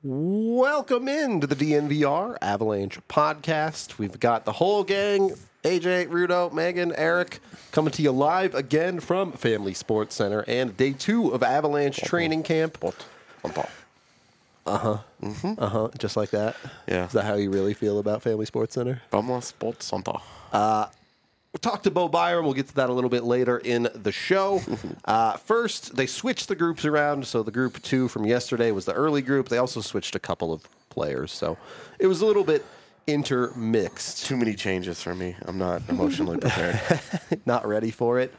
Welcome into the DNVR Avalanche podcast. We've got the whole gang, AJ, Rudo, Megan, Eric, coming to you live again from Family Sports Center and day 2 of Avalanche training camp. Just like that? Yeah. Is that how you really feel about Family Sports Center? Vamos Sports Center. We'll talk to Bo Byram. We'll get to that a little bit later in the show. First, they switched the groups around. So the group 2 from yesterday was the early group. They also switched a couple of players. So it was a little bit intermixed. Too many changes for me. I'm not emotionally prepared. Not ready for it.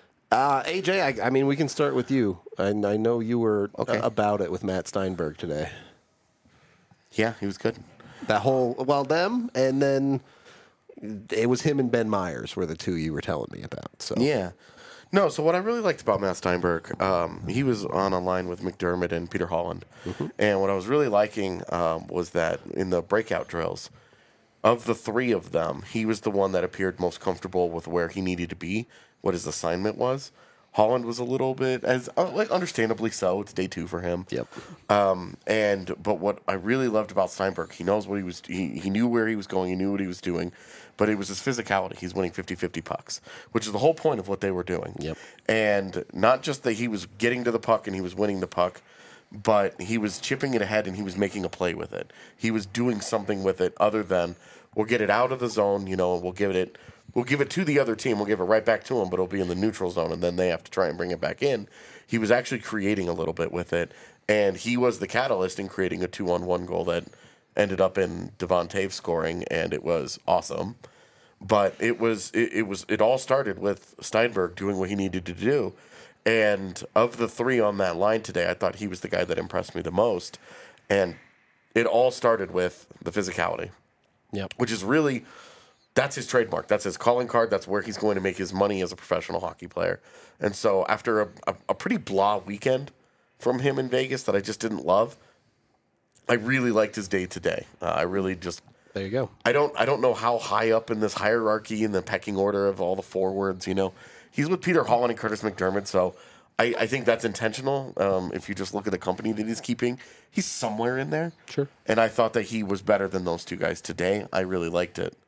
AJ, I mean, we can start with you. I know you were about it with Matt Steinberg today. Yeah, he was good. That whole, them, and then it was him and Ben Myers were the two you were telling me about. So Yeah. No, so what I really liked about Matt Steinberg, he was on a line with McDermott and Peter Holland. And what I was really liking was that in the breakout drills, of the 3 of them, he was the one that appeared most comfortable with where he needed to be, what his assignment was. Holland was a little bit, as understandably so. It's day 2 for him. Yep. But what I really loved about Steinberg, he knows what he was. He knew where he was going. He knew what he was doing. But it was his physicality. He's winning 50-50 pucks, which is the whole point of what they were doing. Yep. And not just that he was getting to the puck and he was winning the puck, but he was chipping it ahead and he was making a play with it. He was doing something with it other than we'll get it out of the zone. We'll give it to the other team. We'll give it right back to them, but it'll be in the neutral zone, and then they have to try and bring it back in. He was actually creating a little bit with it, and he was the catalyst in creating a 2-on-1 goal that ended up in Devon Toews scoring, and it was awesome. But it all started with Steinberg doing what he needed to do. And of the 3 on that line today, I thought he was the guy that impressed me the most. And it all started with the physicality. Yep. Which is really, that's his trademark. That's his calling card. That's where he's going to make his money as a professional hockey player. And so after a pretty blah weekend from him in Vegas that I just didn't love, I really liked his day today. I really just... There you go. I don't know how high up in this hierarchy in the pecking order of all the forwards, He's with Peter Holland and Curtis McDermott, so I think that's intentional. If you just look at the company that he's keeping, he's somewhere in there. Sure. And I thought that he was better than those 2 guys today. I really liked it.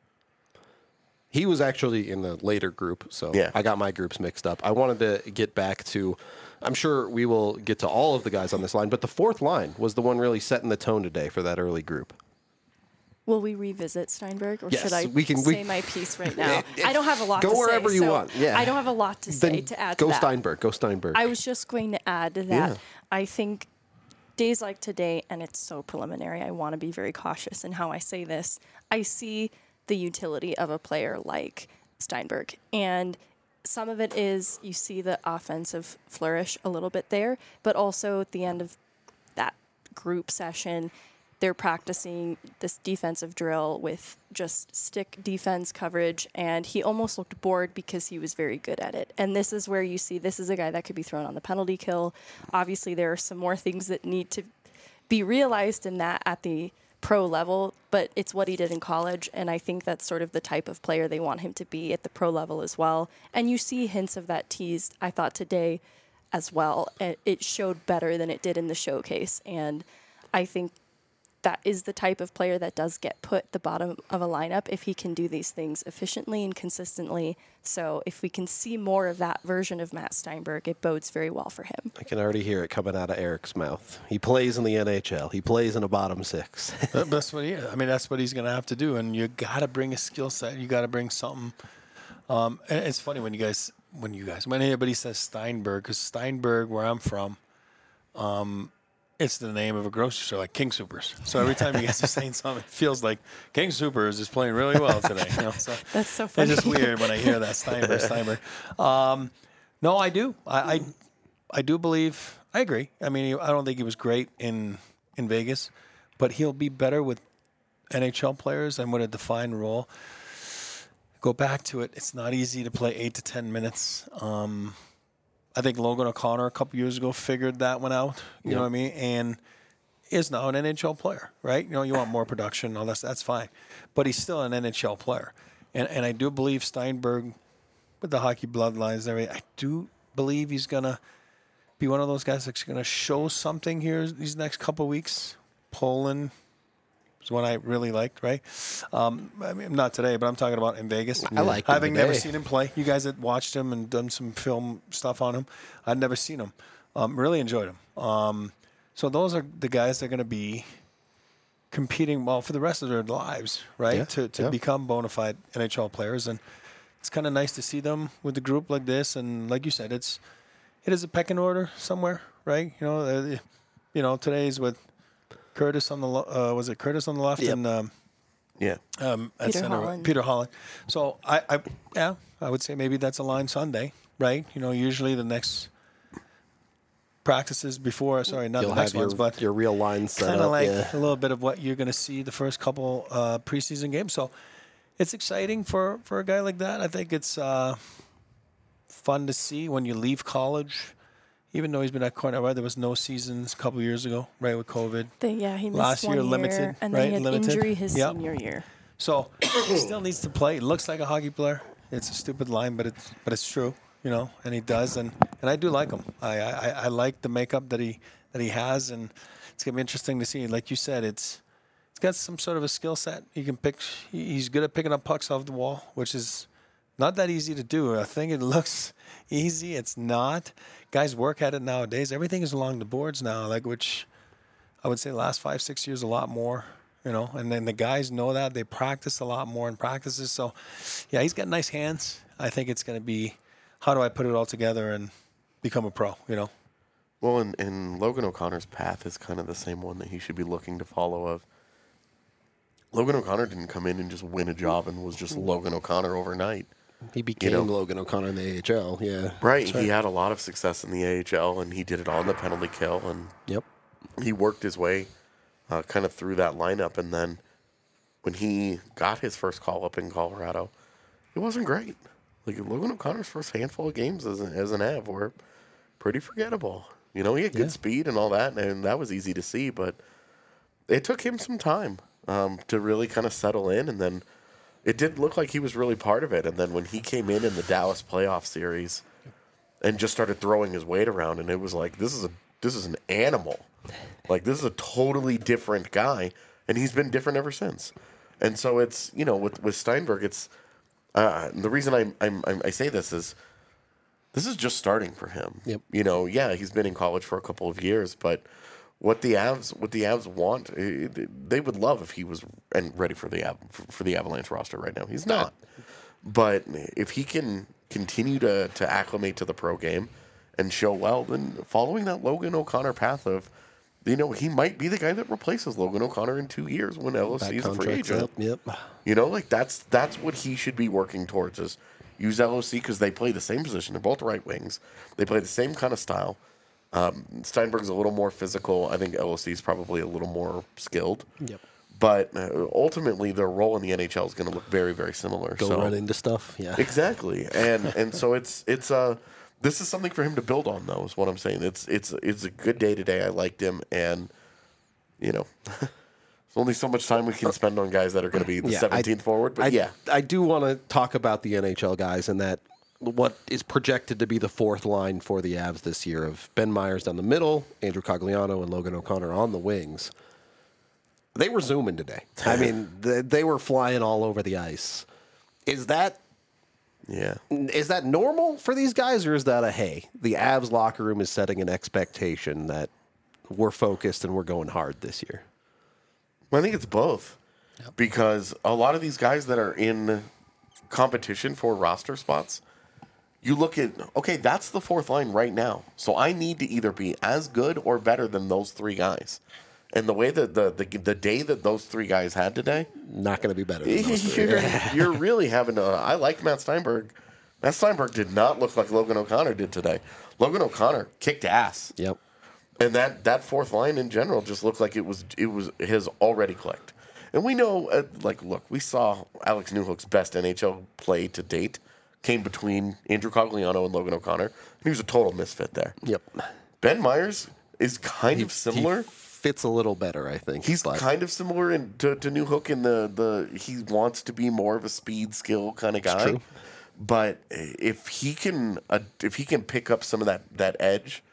He was actually in the later group, so Yeah. I got my groups mixed up. I wanted to get back to, I'm sure we will get to all of the guys on this line, but the 4th line was the one really setting the tone today for that early group. Will we revisit Steinberg, or Yes, should I say my piece right now? I don't have a lot to say. Go wherever you want. Yeah. I don't have a lot to say to add to that. Go Steinberg. I was just going to add that Yeah. I think days like today, and it's so preliminary, I want to be very cautious in how I say this. I see the utility of a player like Steinberg. And some of it is you see the offensive flourish a little bit there, but also at the end of that group session, they're practicing this defensive drill with just stick defense coverage, and he almost looked bored because he was very good at it. And this is where you see this is a guy that could be thrown on the penalty kill. Obviously, there are some more things that need to be realized in that at the pro level, but it's what he did in college, and I think that's sort of the type of player they want him to be at the pro level as well. And you see hints of that teased, I thought, today as well. It showed better than it did in the showcase, and I think that is the type of player that does get put at the bottom of a lineup if he can do these things efficiently and consistently. So if we can see more of that version of Matt Steinberg, it bodes very well for him. I can already hear it coming out of Eric's mouth. He plays in the NHL. He plays in a bottom 6. That's what that's what he's going to have to do. And you got to bring a skill set. You got to bring something. And it's funny when anybody says Steinberg, because Steinberg, where I'm from, it's the name of a grocery store, like King Soopers. So every time you guys are saying something, it feels like King Soopers is playing really well today. So That's so funny. it's just weird when I hear that Steinberg. No, I do. I do believe. I agree. I mean, I don't think he was great in Vegas, but he'll be better with NHL players and with a defined role. Go back to it. It's not easy to play 8 to 10 minutes. I think Logan O'Connor a couple years ago figured that one out. You know what I mean? And is now an NHL player, right? You want more production, all that's fine. But he's still an NHL player. And I do believe Steinberg, with the hockey bloodlines and everything, I do believe he's going to be one of those guys that's going to show something here these next couple of weeks. Poland is one I really liked, right? I mean, not today, but I'm talking about in Vegas. I like him Having never today. seen him play. You guys had watched him and done some film stuff on him. I'd never seen him. Really enjoyed him. So those are the guys that are going to be competing well for the rest of their lives, right? Yeah, To become bona fide NHL players. And it's kind of nice to see them with a group like this. And like you said, it is a pecking order somewhere, right? Today's with Curtis on the was it Curtis on the left Yep. and Yeah. at Peter center, Holland. Peter Holland. So I would say maybe that's a line Sunday, right? Usually the next practices before, not You'll the next have your, ones, but your real line set kind up. of like yeah. a little bit of what you're going to see the first couple preseason games. So it's exciting for a guy like that. I think it's fun to see when you leave college. Even though he's been at Cornell, right? There was no seasons a couple years ago, right, with COVID. He missed Last one year, year, limited, and right? then he had Limited. injury his Yep. senior year. So he still needs to play. He looks like a hockey player. It's a stupid line, but it's true, and he does, and I do like him. I like the makeup that he has, and it's gonna be interesting to see. Like you said, it's got some sort of a skill set. He can pick. He's good at picking up pucks off the wall, which is not that easy to do. I think it looks easy. It's not. Guys work at it nowadays. Everything is along the boards now, which I would say the last 5-6 years a lot more. And then the guys know that. They practice a lot more in practices. So, yeah, he's got nice hands. I think it's going to be, how do I put it all together and become a pro, Well, and Logan O'Connor's path is kind of the same one that he should be looking to follow. Of Logan O'Connor didn't come in and just win a job and was just Logan O'Connor overnight. He became Logan O'Connor in the AHL, yeah. Right. He had a lot of success in the AHL, and he did it on the penalty kill, and Yep. he worked his way kind of through that lineup. And then when he got his first call up in Colorado, it wasn't great. Logan O'Connor's first handful of games as an Av were pretty forgettable. He had good speed and all that, and that was easy to see, but it took him some time to really kind of settle in, and then it did look like he was really part of it. And then when he came in the Dallas playoff series and just started throwing his weight around, and it was like, this is an animal. This is a totally different guy, and he's been different ever since. And so it's, with Steinberg, it's the reason I say this is just starting for him. Yep. He's been in college for a couple of years, but what the Avs want, they would love if he was ready for the Avalanche roster right now. He's not. But if he can continue to acclimate to the pro game and show well, then following that Logan O'Connor path of, he might be the guy that replaces Logan O'Connor in 2 years when LOC is a free agent. Up, yep. That's what he should be working towards, is use LOC because they play the same position. They're both right wings. They play the same kind of style. Steinberg's a little more physical. I think LOC is probably a little more skilled. Yep. But ultimately, their role in the NHL is going to look very, very similar. Go run into stuff, yeah. Exactly, and so it's this is something for him to build on, though. Is what I'm saying. It's a good day today. I liked him, and there's only so much time we can spend on guys that are going to be the 17th forward. But I do want to talk about the NHL guys and that what is projected to be the fourth line for the Avs this year of Ben Myers down the middle, Andrew Cogliano, and Logan O'Connor on the wings. They were zooming today. I mean, they were flying all over the ice. Is that normal for these guys, or is that the Avs locker room is setting an expectation that we're focused and we're going hard this year? Well, I think it's both. Yep. Because a lot of these guys that are in competition for roster spots, you look at, okay, that's the fourth line right now. So I need to either be as good or better than those three guys. And the way that the day that those three guys had today, not going to be better than those three. You're really having to. I like Matt Steinberg. Matt Steinberg did not look like Logan O'Connor did today. Logan O'Connor kicked ass. Yep. And that fourth line in general just looked like it has already clicked. And we know, look, we saw Alex Newhook's best NHL play to date came between Andrew Cogliano and Logan O'Connor, and he was a total misfit there. Yep. Ben Myers is kind of similar. He fits a little better, I think. He's kind of similar to Newhook in the he wants to be more of a speed skill kind of guy. But if he can pick up some of that edge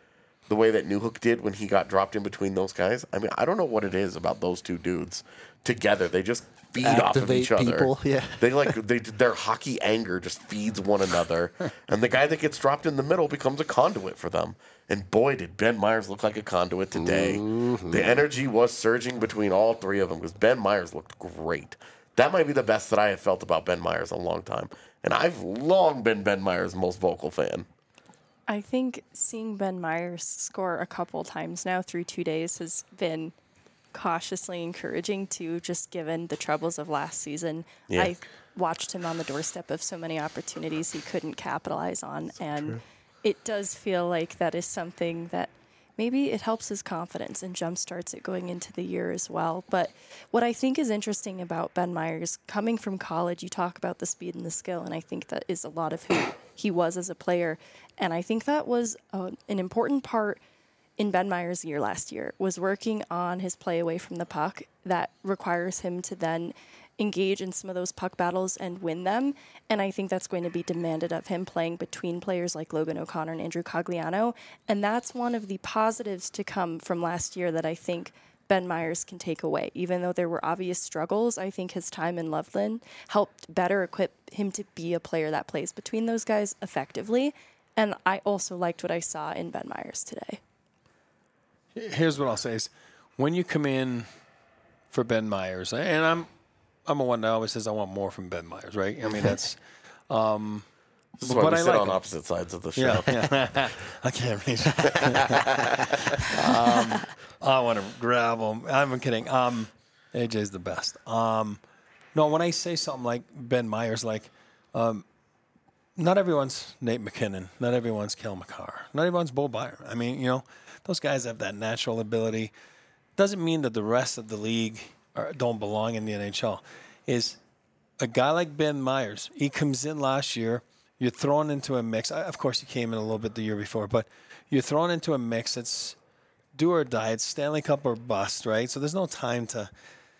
the way that Newhook did when he got dropped in between those guys. I mean, I don't know what it is about those two dudes together. They just feed off of Activate each other. people, yeah. Their hockey anger just feeds one another. And the guy that gets dropped in the middle becomes a conduit for them. And boy, did Ben Meyers look like a conduit today. Mm-hmm. The energy was surging between all three of them because Ben Meyers looked great. That might be the best that I have felt about Ben Meyers in a long time. And I've long been Ben Meyers' most vocal fan. I think seeing Ben Meyers score a couple times now through 2 days has been cautiously encouraging too, just given the troubles of last season. Yeah. I watched him on the doorstep of so many opportunities he couldn't capitalize on. And it does feel like that is something that maybe it helps his confidence and jumpstarts it going into the year as well. But what I think is interesting about Ben Meyers, coming from college, you talk about the speed and the skill, and I think that is a lot of who he was as a player. And I think that was an important part in Ben Meyers' year last year, was working on his play away from the puck that requires him to then engage in some of those puck battles and win them. And I think that's going to be demanded of him playing between players like Logan O'Connor and Andrew Cogliano. And that's one of the positives to come from last year that I think Ben Meyers can take away. Even though there were obvious struggles, I think his time in Loveland helped better equip him to be a player that plays between those guys effectively. And I also liked what I saw in Ben Meyers today. Here's what I'll say is, when you come in for Ben Meyers, and I'm a one that always says I want more from Ben Meyers, right? I mean, that's... This is why we sit on opposite sides of the show. Yeah. I can't read. I want to grab him. I'm kidding. AJ's the best. No, when I say something like Ben Meyers, like, not everyone's Nate McKinnon. Not everyone's Kel McCarr. Not everyone's Bo Byron. I mean, those guys have that natural ability. Doesn't mean that the rest of the league don't belong in the NHL. Is a guy like Ben Meyers, he comes in last year, you're thrown into a mix. Of course, he came in a little bit the year before, but you're thrown into a mix. It's do or die. It's Stanley Cup or bust, right? So there's no time to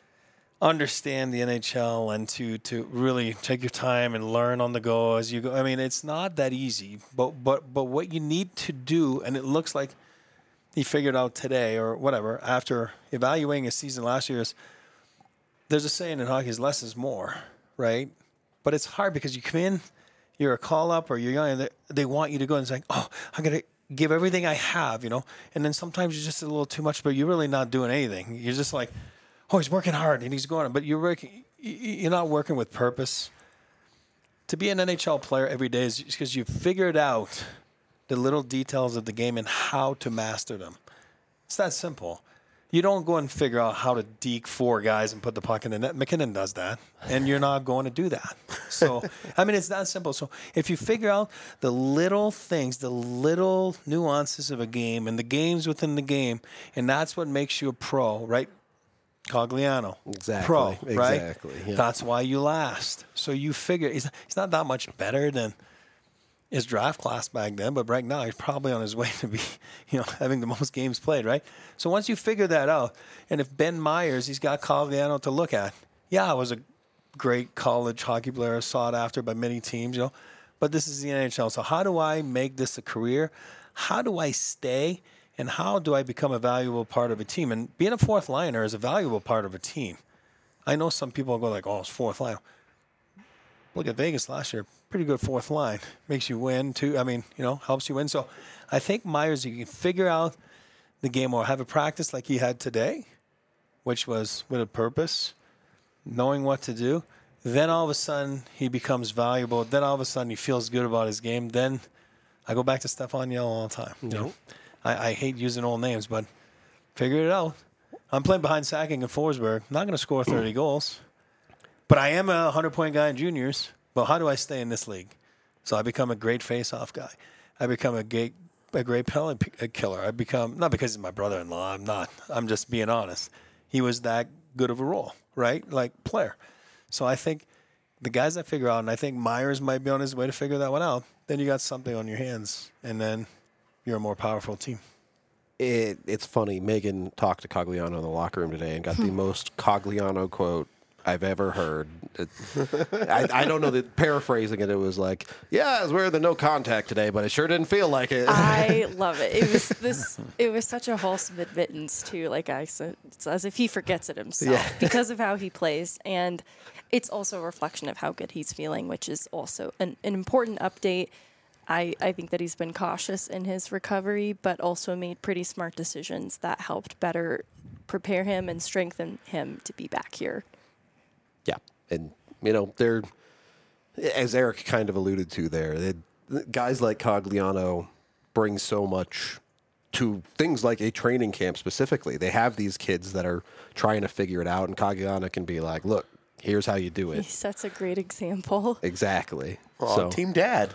understand the NHL and to really take your time and learn on the go as you go. I mean, it's not that easy, but what you need to do, and it looks like he figured out today or whatever, after evaluating his season last year, is there's a saying in hockey is less is more, right? But it's hard because you come in, you're a call-up or you're young, and they want you to go and say, oh, I'm going to give everything I have, and then sometimes you're just a little too much, but you're really not doing anything. You're just like, oh, he's working hard and he's going, but you're not working with purpose. To be an NHL player every day is because you've figured out the little details of the game and how to master them. It's that simple. You don't go and figure out how to deke four guys and put the puck in the net. McKinnon does that, and you're not going to do that. So, I mean, it's that simple. So if you figure out the little things, the little nuances of a game and the games within the game, and that's what makes you a pro, right? Cogliano, exactly, pro, right? Exactly. Yeah. That's why you last. So you figure he's not that much better than his draft class back then, but right now he's probably on his way to be, having the most games played, right? So once you figure that out, and if Ben Meyers, he's got Cogliano to look at. Yeah, I was a great college hockey player, sought after by many teams, but this is the NHL. So how do I make this a career? How do I stay? And how do I become a valuable part of a team? And being a fourth liner is a valuable part of a team. I know some people go like, oh, it's fourth line. Look at Vegas last year. Pretty good fourth line. Makes you win, too. I mean, helps you win. So I think Meyers, you can figure out the game or have a practice like he had today, which was with a purpose, knowing what to do. Then all of a sudden he becomes valuable. Then all of a sudden he feels good about his game. Then I go back to Stefan Yell all the time. I hate using old names, but figure it out. I'm playing behind Sacking and Forsberg. I'm not going to score 30 goals. But I am a 100-point guy in juniors. But how do I stay in this league? So I become a great face-off guy. I become a great penalty killer. I become, not because he's my brother-in-law, I'm not. I'm just being honest. He was that good of a role, right? Like player. So I think the guys that figure out, and I think Meyers might be on his way to figure that one out, then you got something on your hands, and then you're a more powerful team. It's funny. Megan talked to Cogliano in the locker room today and got the most Cogliano quote I've ever heard. I don't know that paraphrasing it. It was like, yeah, I was wearing the no contact today, but it sure didn't feel like it. I love it. It was such a wholesome admittance too. Like I said, it's as if he forgets it himself because of how he plays, and it's also a reflection of how good he's feeling, which is also an important update. I think that he's been cautious in his recovery, but also made pretty smart decisions that helped better prepare him and strengthen him to be back here. Yeah, and they're, as Eric kind of alluded to there, guys like Cogliano bring so much to things like a training camp specifically. They have these kids that are trying to figure it out, and Cogliano can be like, look, here's how you do it. He sets a great example. Exactly. Oh, Team Dad.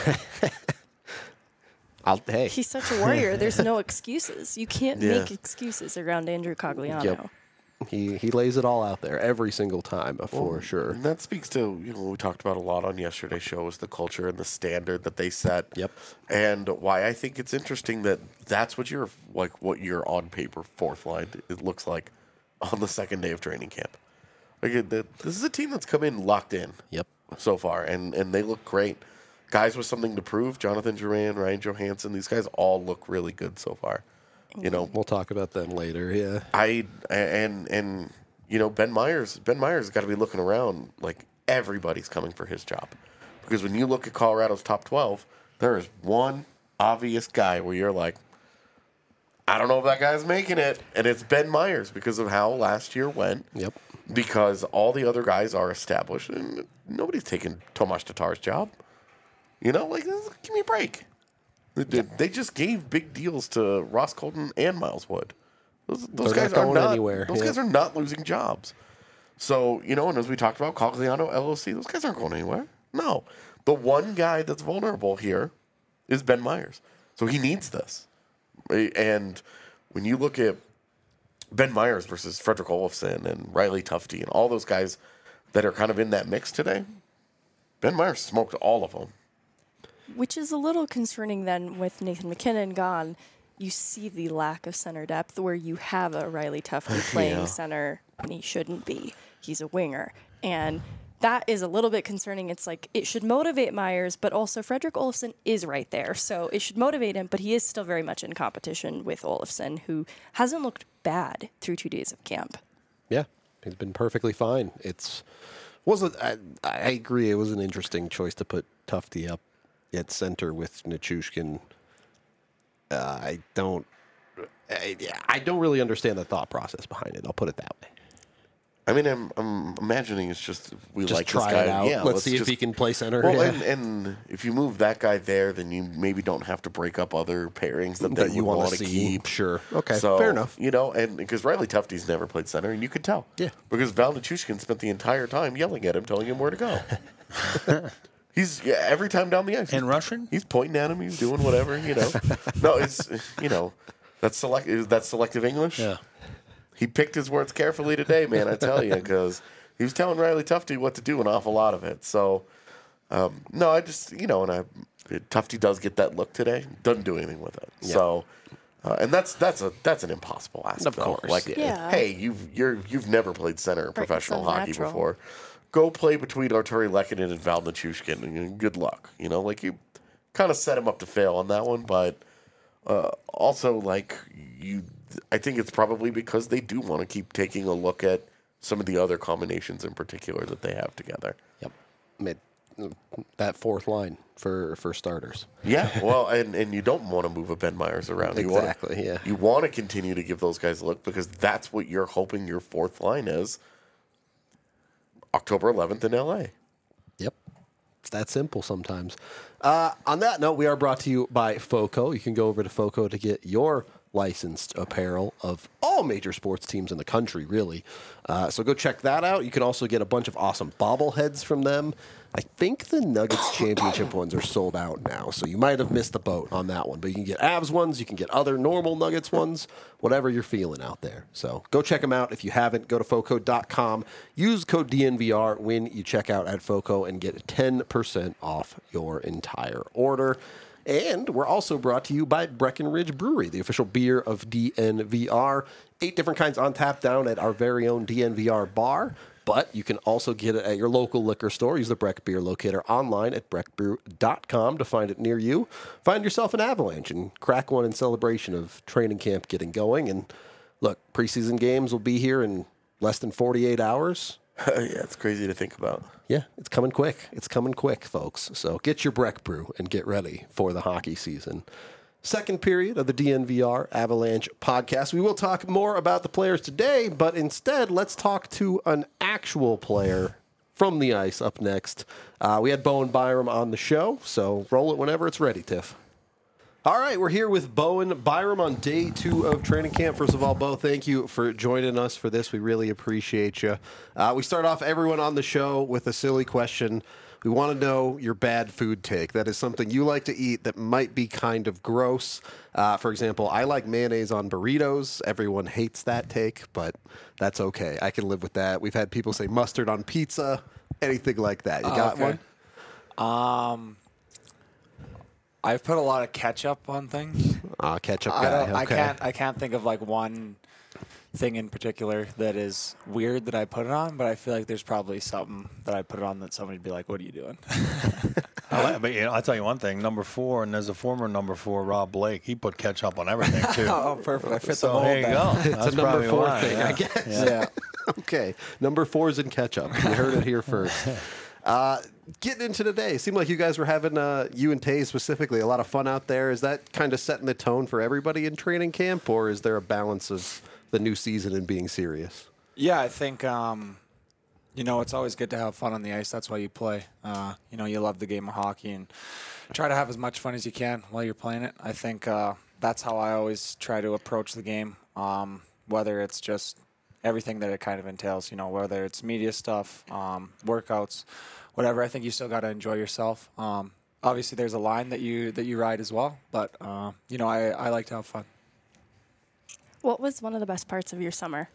Hey. He's such a warrior. There's no excuses. You can't make excuses around Andrew Cogliano. Yep. He lays it all out there every single time, for sure. And that speaks to what we talked about a lot on yesterday's show is the culture and the standard that they set. Yep. And why I think it's interesting that that's what your on paper fourth line it looks like on the second day of training camp. Like this is a team that's come in locked in. Yep. So far, and they look great. Guys with something to prove. Jonathan Drouin, Ryan Johansson. These guys all look really good so far. We'll talk about them later. Yeah. Ben Myers. Ben Myers got to be looking around like everybody's coming for his job, because when you look at Colorado's top 12, there is one obvious guy where you're like, I don't know if that guy's making it, and it's Ben Myers because of how last year went. Yep. Because all the other guys are established, and nobody's taking Tomas Tatar's job. Give me a break. They just gave big deals to Ross Colton and Miles Wood. Those guys not are going not anywhere. Those guys are not losing jobs. So, and as we talked about, Cogliano, LOC, those guys aren't going anywhere. No. The one guy that's vulnerable here is Ben Myers. So he needs this. And when you look at Ben Myers versus Frederick Olofsson and Riley Tufte and all those guys that are kind of in that mix today, Ben Myers smoked all of them. Which is a little concerning then with Nathan McKinnon gone. You see the lack of center depth where you have a Riley Tufte playing center and he shouldn't be. He's a winger. And that is a little bit concerning. It's like it should motivate Myers, but also Frederick Olofsson is right there. So it should motivate him, but he is still very much in competition with Olofsson, who hasn't looked bad through 2 days of camp. Yeah, he's been perfectly fine. I agree. It was an interesting choice to put Tufte up at center with Nichushkin. I don't really understand the thought process behind it. I'll put it that way. I mean, I'm imagining it's just like try this guy. it out. Yeah, let's see if he can play center. Well, and if you move that guy there, then you maybe don't have to break up other pairings that you want to keep. Sure. Okay. So, fair enough. And because Riley Tufte's never played center, and you could tell. Yeah. Because Val Nichushkin spent the entire time yelling at him, telling him where to go. He's every time down the ice. In Russian? He's pointing at him. He's doing whatever. No, it's that's selective English. Yeah. He picked his words carefully today, man, I tell you, because he was telling Riley Tufte what to do an awful lot of it. So, no, I just, Tufte does get that look today. Doesn't do anything with it. Yeah. So, and that's an impossible aspect. Of course. Like, hey, you've never played center in professional hockey unnatural. before. Go play between Arturi Lehkonen and Val Nichushkin, and good luck. You kind of set him up to fail on that one, but also, I think it's probably because they do want to keep taking a look at some of the other combinations in particular that they have together. Yep. That fourth line for starters. Yeah, well, and you don't want to move a Ben Myers around. Exactly, yeah. You want to continue to give those guys a look because that's what you're hoping your fourth line is October 11th in L.A. Yep. It's that simple sometimes. On that note, we are brought to you by FOCO. You can go over to FOCO to get your licensed apparel of all major sports teams in the country, really. So go check that out. You can also get a bunch of awesome bobbleheads from them. I think the Nuggets championship ones are sold out now, so you might have missed the boat on that one. But you can get Avs ones, you can get other normal Nuggets ones, whatever you're feeling out there. So go check them out. If you haven't, go to FOCO.com. Use code DNVR when you check out at FOCO and get 10% off your entire order. And we're also brought to you by Breckenridge Brewery, the official beer of DNVR. 8 different kinds on tap down at our very own DNVR bar. But you can also get it at your local liquor store. Use the Breck Beer Locator online at breckbrew.com to find it near you. Find yourself an Avalanche and crack one in celebration of training camp getting going. And look, preseason games will be here in less than 48 hours. Yeah, it's crazy to think about. Yeah, it's coming quick. It's coming quick, folks. So get your Breck Brew and get ready for the hockey season. Second period of the DNVR Avalanche podcast. We will talk more about the players today, but instead, let's talk to an actual player from the ice up next. We had Bowen Byram on the show, so roll it whenever it's ready, Tiff. All right, we're here with Bowen Byram on day 2 of training camp. First of all, Bo, thank you for joining us for this. We really appreciate you. We start off everyone on the show with a silly question. We want to know your bad food take. That is something you like to eat that might be kind of gross. For example, I like mayonnaise on burritos. Everyone hates that take, but that's okay. I can live with that. We've had people say mustard on pizza, anything like that. You got one? I've put a lot of ketchup on things. Ketchup guy. Okay. I can't think of like one thing in particular that is weird that I put it on, but I feel like there's probably something that I put it on that somebody'd be like, "What are you doing?" But I'll tell you one thing. Number 4, and there's a former number 4, Rob Blake. He put ketchup on everything too. Oh, perfect! I fit the So mold. there you go. It's That's a number probably 4 why, thing, yeah. I guess. Yeah. Okay, number 4 is in ketchup. You heard it here first. Getting into today, seemed like you guys were having, you and Tay specifically, a lot of fun out there. Is that kind of setting the tone for everybody in training camp, or is there a balance of the new season and being serious? Yeah, I think it's always good to have fun on the ice. That's why you play. You love the game of hockey and try to have as much fun as you can while you're playing it. I think that's how I always try to approach the game, whether it's just everything that it kind of entails, whether it's media stuff, workouts, whatever. I think you still got to enjoy yourself. Obviously, there's a line that you ride as well, but I like to have fun. What was one of the best parts of your summer?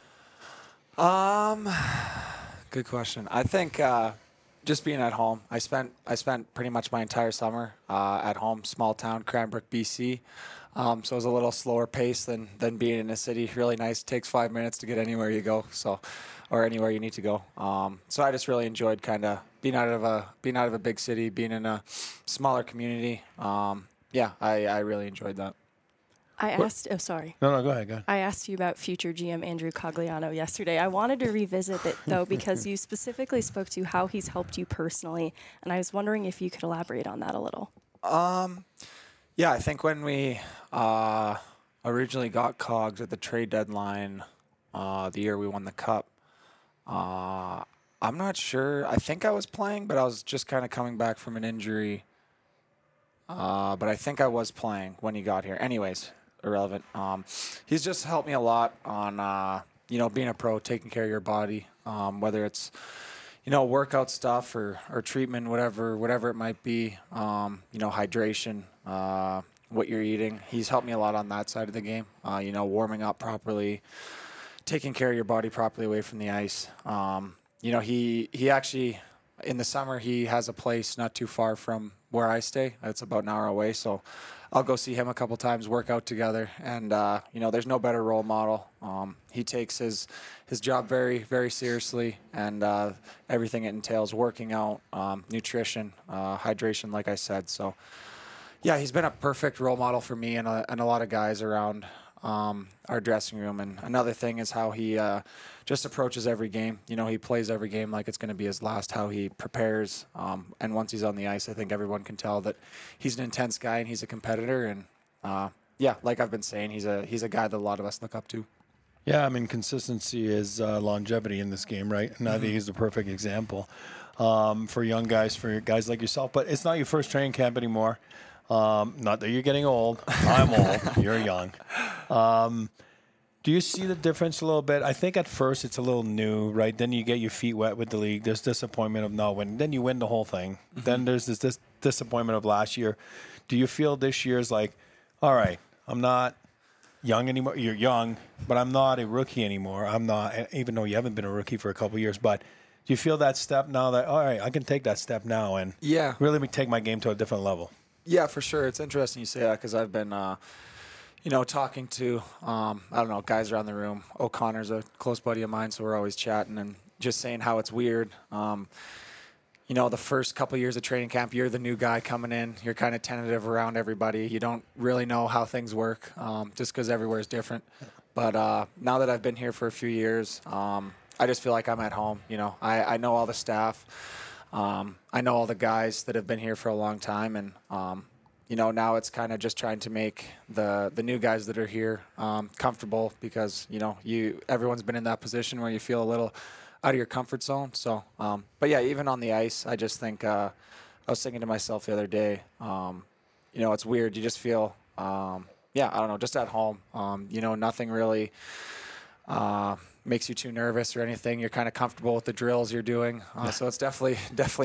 Good question. I think just being at home. I spent pretty much my entire summer at home, small town, Cranbrook, BC. So it was a little slower pace than being in a city. Really nice. Takes 5 minutes to get anywhere you go, or anywhere you need to go. So I just really enjoyed kind of being out of a big city, being in a smaller community. I really enjoyed that. I asked. Oh, sorry. No, go ahead. I asked you about future GM Andrew Cogliano yesterday. I wanted to revisit it, though, because you specifically spoke to how he's helped you personally, and I was wondering if you could elaborate on that a little. Yeah, I think when we originally got Cogs at the trade deadline, the year we won the Cup, I'm not sure. I think I was playing, but I was just kind of coming back from an injury. But I think I was playing when he got here. Anyways, irrelevant. He's just helped me a lot on, being a pro, taking care of your body, whether it's, workout stuff or treatment, whatever it might be, hydration, what you're eating. He's helped me a lot on that side of the game, warming up properly, taking care of your body properly away from the ice. He actually, in the summer, he has a place not too far from where I stay. It's about an hour away, so I'll go see him a couple times, work out together, and there's no better role model. He takes his job very, very seriously, and everything it entails, working out, nutrition, hydration, like I said. So, yeah, he's been a perfect role model for me and a lot of guys around our dressing room. And another thing is how he just approaches every game. He plays every game like it's going to be his last, how he prepares. And once he's on the ice, I think everyone can tell that he's an intense guy and he's a competitor. And like I've been saying, he's a guy that a lot of us look up to. Yeah, I mean, consistency is longevity in this game, right? And I think he's the perfect example for young guys, for guys like yourself. But it's not your first training camp anymore. Not that you're getting old. I'm old. You're young. Do you see the difference a little bit? I think at first it's a little new, right? Then you get your feet wet with the league. There's disappointment of not winning. Then you win the whole thing. Mm-hmm. Then there's this disappointment of last year. Do you feel this year's like, all right, I'm not young anymore. You're young, but I'm not a rookie anymore. I'm not, even though you haven't been a rookie for a couple of years. But do you feel that step now that, all right, I can take that step now and really take my game to a different level? Yeah, for sure. It's interesting you say that because I've been, talking to, guys around the room. O'Connor's a close buddy of mine, so we're always chatting. And, just saying how it's weird. You know, the first couple years of training camp, you're the new guy coming in. You're kind of tentative around everybody. You don't really know how things work, just because everywhere is different. But now that I've been here for a few years, I just feel like I'm at home. You know, I know all the staff. I know all the guys that have been here for a long time. And, you know, now it's kind of just trying to make the new guys that are here comfortable because, you know, everyone's been in that position where you feel a little out of your comfort zone. So, but yeah, even on the ice, I just think I was thinking to myself the other day, you know, it's weird. You just feel, I don't know, just at home. You know, nothing really makes you too nervous or anything. You're kind of comfortable with the drills you're doing. So it's definitely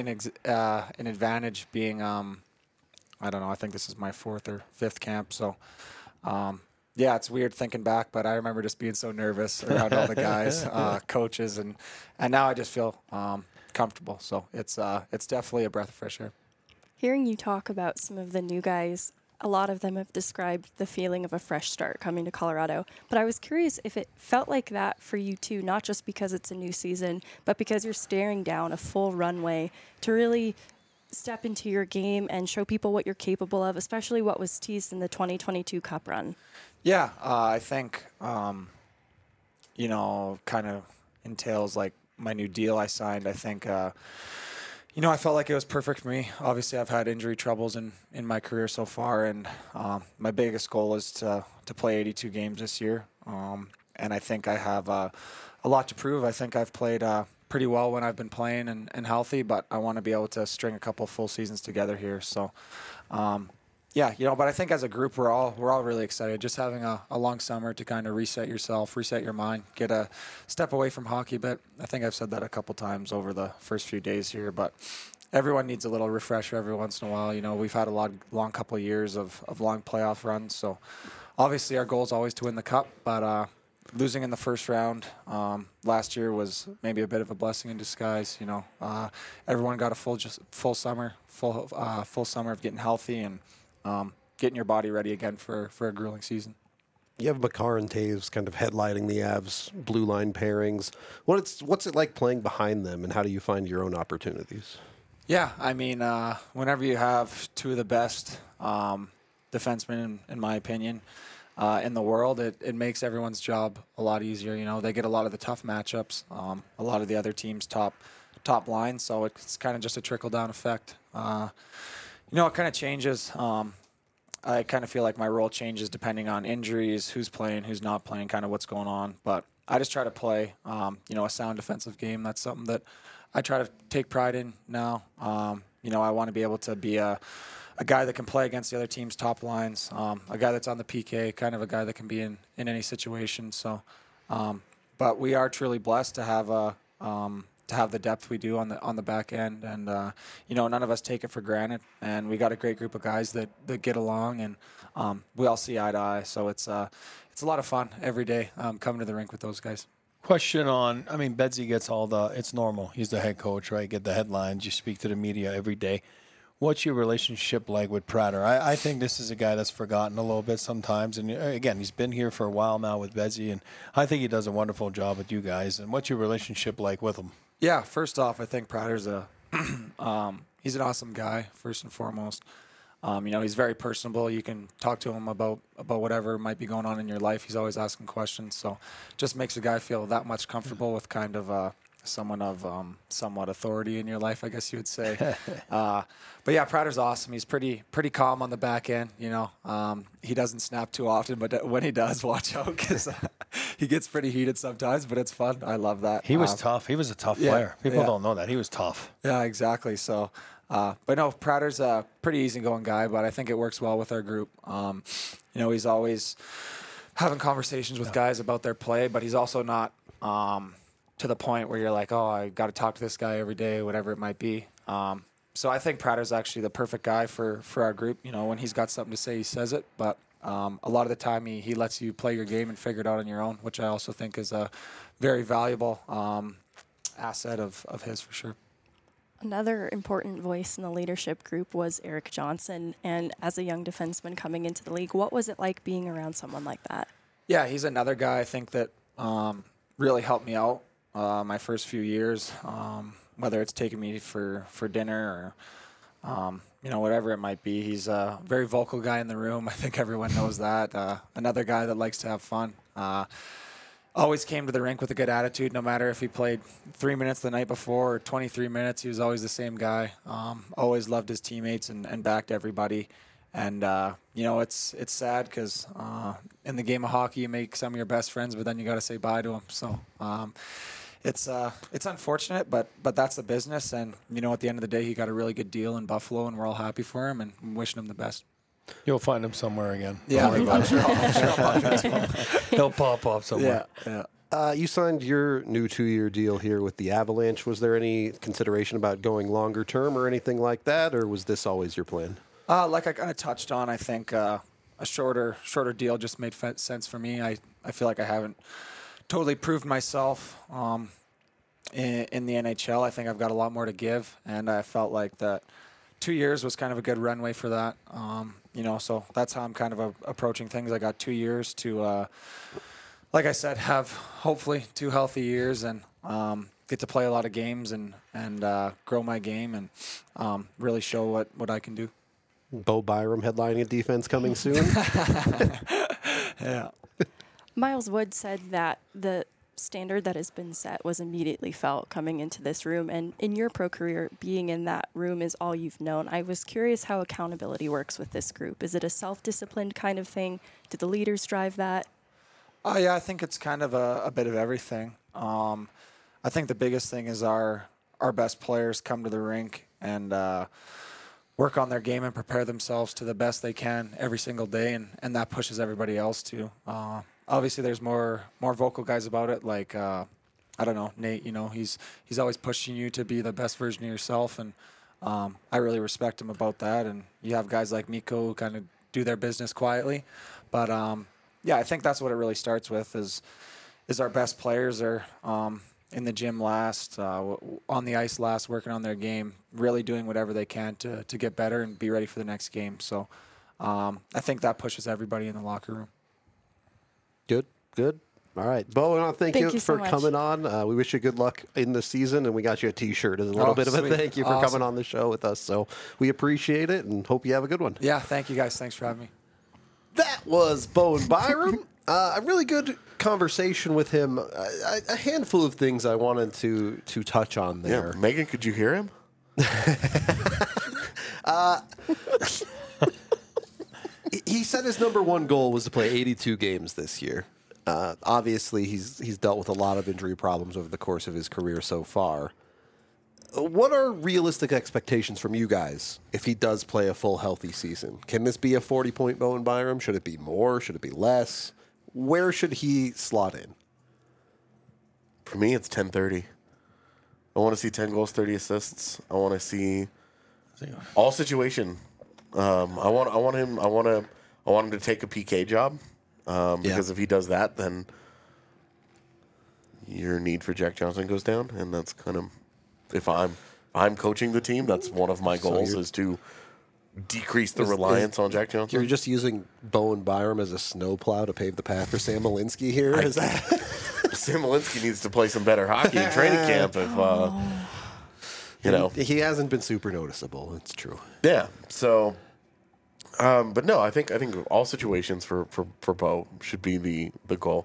an advantage being, I don't know, I think this is my 4th or 5th camp. So, yeah, it's weird thinking back, but I remember just being so nervous around all the guys, coaches, and now I just feel comfortable. So it's definitely a breath of fresh air. Hearing you talk about some of the new guys, a lot of them have described the feeling of a fresh start coming to Colorado. But I was curious if it felt like that for you too, not just because it's a new season, but because you're staring down a full runway to really step into your game and show people what you're capable of, especially what was teased in the 2022 Cup run. Yeah, I think, you know, kind of entails like my new deal I signed. I think, you know, I felt like it was perfect for me. Obviously, I've had injury troubles in my career so far, and my biggest goal is to play 82 games this year. And I think I have a lot to prove. I think I've played pretty well when I've been playing and healthy, but I want to be able to string a couple full seasons together here. So, yeah, you know, but I think as a group, we're all really excited. Just having a long summer to kind of reset yourself, reset your mind, get a step away from hockey. But I think I've said that a couple times over the first few days here. But everyone needs a little refresher every once in a while. You know, we've had a long couple of years of long playoff runs. So obviously our goal is always to win the cup. But losing in the first round last year was maybe a bit of a blessing in disguise. You know, everyone got a full summer of getting healthy and getting your body ready again for a grueling season. You have Makar and Taves kind of headlining the Avs blue line pairings. What's it like playing behind them, and how do you find your own opportunities? Yeah, I mean, whenever you have two of the best defensemen, in my opinion, in the world, it makes everyone's job a lot easier. You know, they get a lot of the tough matchups, a lot of the other teams' top line, so it's kind of just a trickle-down effect. You know, it kind of changes. I kind of feel like my role changes depending on injuries, who's playing, who's not playing, kind of what's going on. But I just try to play, you know, a sound defensive game. That's something that I try to take pride in now. You know, I want to be able to be a guy that can play against the other team's top lines, a guy that's on the PK, kind of a guy that can be in any situation. So, but we are truly blessed to have the depth we do on the back end, and you know, none of us take it for granted. And we got a great group of guys that get along, and we all see eye to eye. So it's a lot of fun every day coming to the rink with those guys. Question on, I mean, Bedsy gets it's normal. He's the head coach, right? Get the headlines. You speak to the media every day. What's your relationship like with Prater? I think this is a guy that's forgotten a little bit sometimes. And again, he's been here for a while now with Bedsy, and I think he does a wonderful job with you guys. And what's your relationship like with him? Yeah, first off, I think Prater's he's an awesome guy, first and foremost. You know, he's very personable. You can talk to him about whatever might be going on in your life. He's always asking questions. So just makes a guy feel that much comfortable with kind of someone of somewhat authority in your life, I guess you would say. But yeah, Prater's awesome. He's pretty calm on the back end. You know, he doesn't snap too often, but when he does, watch out because he gets pretty heated sometimes. But it's fun. I love that. He was tough. He was a tough player. People don't know that. He was tough. Yeah, exactly. So. But no, Prater's a pretty easygoing guy, but I think it works well with our group. You know, he's always having conversations with guys about their play, but he's also not to the point where you're like, oh, I got to talk to this guy every day, whatever it might be. So I think Prater's actually the perfect guy for our group. You know, when he's got something to say, he says it, but a lot of the time he lets you play your game and figure it out on your own, which I also think is a very valuable asset of his for sure. Another important voice in the leadership group was Erik Johnson. And as a young defenseman coming into the league, what was it like being around someone like that? Yeah, he's another guy I think that really helped me out my first few years, whether it's taking me for dinner or whatever it might be. He's a very vocal guy in the room. I think everyone knows that. Another guy that likes to have fun. Always came to the rink with a good attitude, no matter if he played 3 minutes the night before or 23 minutes. He was always the same guy. Always loved his teammates and backed everybody. And, it's sad because in the game of hockey, you make some of your best friends, but then you got to say bye to them. So it's unfortunate, but that's the business. And, at the end of the day, he got a really good deal in Buffalo, and we're all happy for him and wishing him the best. You'll find him somewhere again. Yeah, I'm sure I'll bump into him. He'll pop up somewhere. Yeah. You signed your new 2-year deal here with the Avalanche. Was there any consideration about going longer term or anything like that, or was this always your plan? Like I kind of touched on, I think a shorter deal just made sense for me. I feel like I haven't totally proved myself in the NHL. I think I've got a lot more to give, and I felt like that 2 years was kind of a good runway for that. So that's how I'm kind of approaching things. I got 2 years to, like I said, have hopefully 2 healthy years and get to play a lot of games and grow my game and really show what I can do. Bo Byram headlining a defense coming soon. Yeah. Miles Wood said that the standard that has been set was immediately felt coming into this room. And in your pro career, being in that room is all you've known. I was curious how accountability works with this group. Is it a self-disciplined kind of thing? Do the leaders drive that? Yeah, I think it's kind of a bit of everything. I think the biggest thing is our best players come to the rink and work on their game and prepare themselves to the best they can every single day, and that pushes everybody else too. Obviously, there's more vocal guys about it. Like I don't know, Nate. He's always pushing you to be the best version of yourself, and I really respect him about that. And you have guys like Mikko who kind of do their business quietly, but I think that's what it really starts with. Is our best players are in the gym last, on the ice last, working on their game, really doing whatever they can to get better and be ready for the next game. So I think that pushes everybody in the locker room. Good. All right. Bo, I want to thank you you so for much. coming on. We wish you good luck in the season, and we got you a T-shirt as a little bit of a sweet. thank you for Awesome. coming on the show with us. So we appreciate it and hope you have a good one. Yeah, thank you guys. Thanks for having me. That was Bowen Byram. A really good conversation with him. A handful of things I wanted to touch on there. Yeah, Megan, could you hear him? He said his number one goal was to play 82 games this year. Obviously, he's dealt with a lot of injury problems over the course of his career so far. What are realistic expectations from you guys if he does play a full healthy season? Can this be a 40-point Bowen Byram? Should it be more? Should it be less? Where should he slot in? For me, it's 10-30. I want to see 10 goals, 30 assists. I want to see all situation. I want him to take a PK job because if he does that, then your need for Jack Johnson goes down, and that's kind of if I'm coaching the team, that's one of my goals is to decrease the reliance on Jack Johnson. You're just using Bowen Byram as a snowplow to pave the path for Sam Malinsky here? Is that? Sam Malinsky needs to play some better hockey in training camp. He hasn't been super noticeable. It's true. Yeah. So, but no, I think all situations for Bo should be the goal.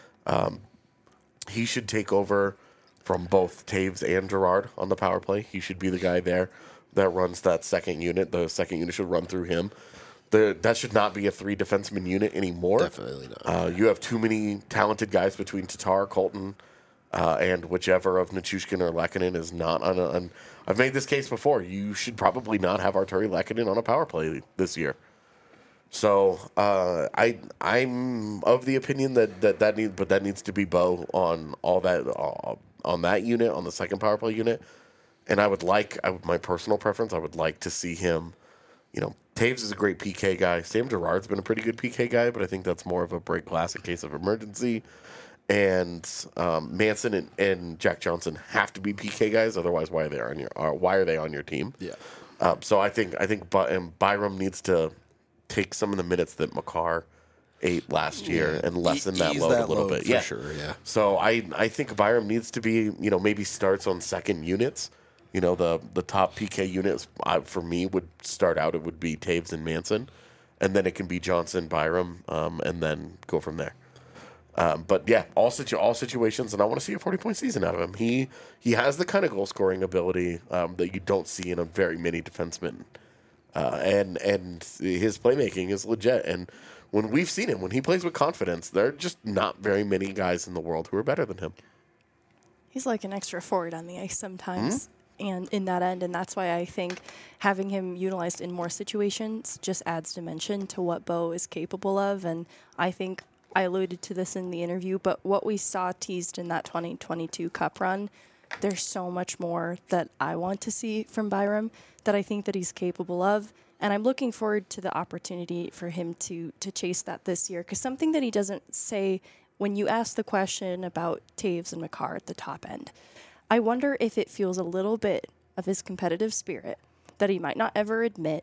He should take over from both Taves and Girard on the power play. He should be the guy there that runs that second unit. The second unit should run through him. That should not be a 3 defenseman unit anymore. Definitely not. You have too many talented guys between Tatar, Colton, and whichever of Nichushkin or Lehkonen is not on. I've made this case before. You should probably not have Arturi Lehkonen on a power play this year. So I'm of the opinion that needs to be Bo on all that on that unit, on the second power play unit. And my personal preference, I would like to see him. Taves is a great PK guy. Sam Girard's been a pretty good PK guy, but I think that's more of a break glass in case of emergency. And Manson and Jack Johnson have to be PK guys, otherwise why are they on your team? Yeah. So I think Byram needs to take some of the minutes that Makar 8 last year and lessen that Ease load a little load bit. for Yeah, sure. Yeah. So I think Byram needs to be, maybe starts on second units. The top PK units for me would start out. It would be Taves and Manson, and then it can be Johnson, Byram, and then go from there. But yeah, all situations, and I want to see a 40-point season out of him. He has the kind of goal scoring ability that you don't see in a very many defensemen, and his playmaking is legit. And when we've seen him, when he plays with confidence, there are just not very many guys in the world who are better than him. He's like an extra forward on the ice sometimes. And in that end, and that's why I think having him utilized in more situations just adds dimension to what Bo is capable of. And I think I alluded to this in the interview, but what we saw teased in that 2022 Cup run, there's so much more that I want to see from Byram that I think that he's capable of. And I'm looking forward to the opportunity for him to chase that this year. Because something that he doesn't say when you ask the question about Taves and Makar at the top end, I wonder if it feels a little bit of his competitive spirit that he might not ever admit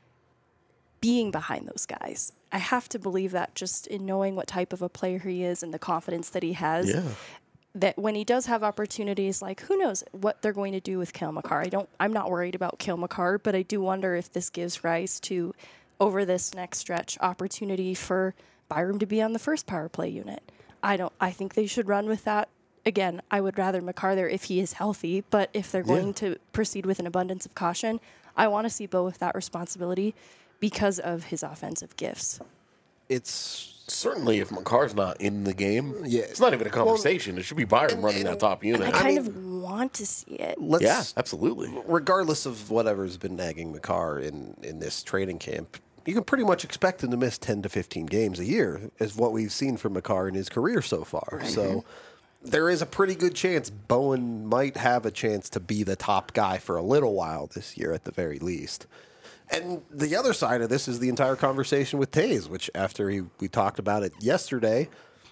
being behind those guys. I have to believe that just in knowing what type of a player he is and the confidence that he has, that when he does have opportunities, like who knows what they're going to do with Cale Makar. I'm not worried about Cale Makar, but I do wonder if this gives rise to, over this next stretch, opportunity for Byram to be on the first power play unit. I think they should run with that. Again, I would rather Makar there if he is healthy, but if they're going to proceed with an abundance of caution, I want to see Bo with that responsibility because of his offensive gifts. It's Certainly, if Makar's not in the game, Yeah. it's not even a conversation. It should be Byram running that top unit. I kind of want to see it. Yeah, absolutely. regardless of whatever's been nagging Makar in this training camp, you can pretty much expect him to miss 10 to 15 games a year, is what we've seen from Makar in his career so far. So there is a pretty good chance Bowen might have a chance to be the top guy for a little while this year at the very least. And the other side of this is the entire conversation with Taves, which after we talked about it yesterday,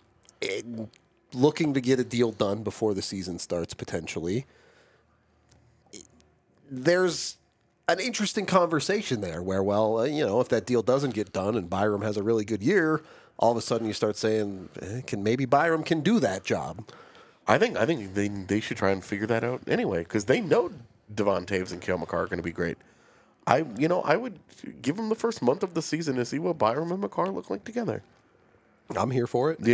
looking to get a deal done before the season starts potentially. There's an interesting conversation there where, if that deal doesn't get done and Byram has a really good year, all of a sudden you start saying, maybe Byram can do that job. I think they should try and figure that out anyway, because they know Devon Taves and Cale Makar are going to be great. I would give them the first month of the season to see what Byram and Makar look like together. I'm here for it.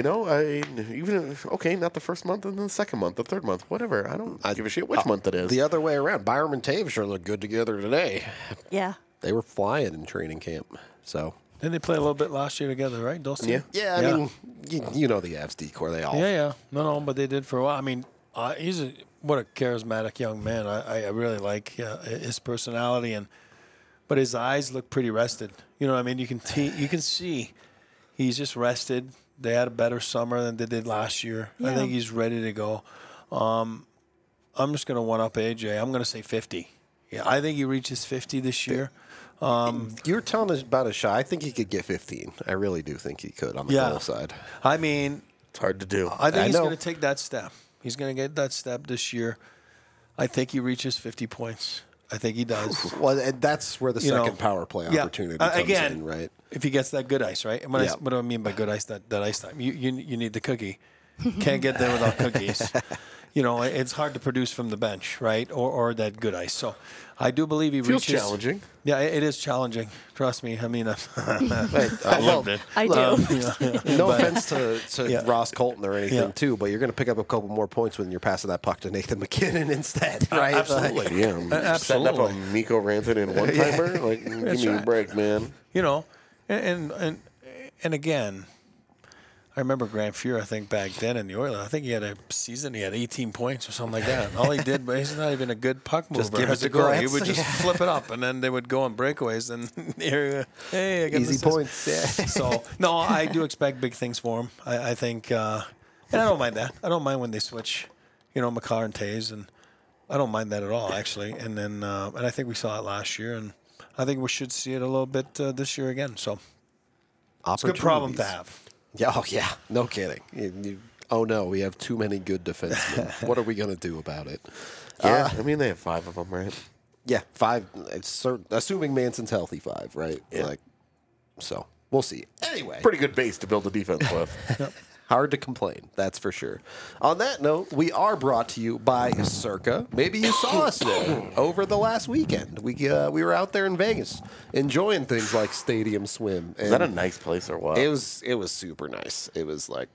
Not the first month, and then the second month, the third month, whatever. I don't give a shit which month it is. The other way around, Byram and Taves sure look good together today. Yeah. They were flying in training camp, so. Didn't they play a little bit last year together, right? Those two? Yeah. Yeah, I mean, you know the Avs decor, they all. Yeah. No, but they did for a while. I mean, what a charismatic young man. I really like his personality, but his eyes look pretty rested. You know what I mean? You can see he's just rested. They had a better summer than they did last year. Yeah. I think he's ready to go. I'm just going to one up AJ. I'm going to say 50. Yeah, I think he reaches 50 this year. You're telling us about a shot. I think he could get 15. I really do think he could on the goal side. I mean, It's hard to do. I think I he's know. going to take that step. He's going to get that step this year. I think he reaches 50 points. I think he does. Well, and that's where the You know, second power play opportunity comes again, in, right? If he gets that good ice, right? And Yeah. what do I mean by good ice? That ice time. You need the cookie. Can't get there without cookies. It's hard to produce from the bench, right? Or that good ice. So I do believe he Feels reaches. challenging. Yeah, it is challenging. Trust me. I mean, I well, lived it. I do. No offense to Yeah. Ross Colton or anything, Yeah. too, but you're going to pick up a couple more points when you're passing that puck to Nathan McKinnon instead, right? Absolutely, yeah. Setting up a Absolutely. Miko Rantanen one-timer? Like, give me a right. break, man. And again, I remember Grant Fuhr, I think, back then in the Oilers. I think he had a season, he had 18 points or something like that. And all he did, but he's not even a good puck mover. Just give it as to a goalie. He Grant. would just flip it up, and then they would go on breakaways, and hey, I got an Easy assist. points, yeah. So, no, I do expect big things for him. I think, and I don't mind that. I don't mind when they switch, Makar and Taves, and I don't mind that at all, actually. And then, and I think we saw it last year, and I think we should see it a little bit this year again. So, it's a good problem to have. Yeah, oh, yeah. No kidding. Oh, no, we have too many good defensemen. What are we going to do about it? Yeah, I mean, they have 5 of them, right? Yeah, 5. It's assuming Manson's healthy, 5, right? Yeah. So we'll see. Anyway, Pretty good base to build a defense with. hard to complain, that's for sure. On that note, we are brought to you by Circa. Maybe you saw us there over the last weekend. We were out there in Vegas enjoying things like Stadium Swim. Is that a nice place or what? It was super nice. It was like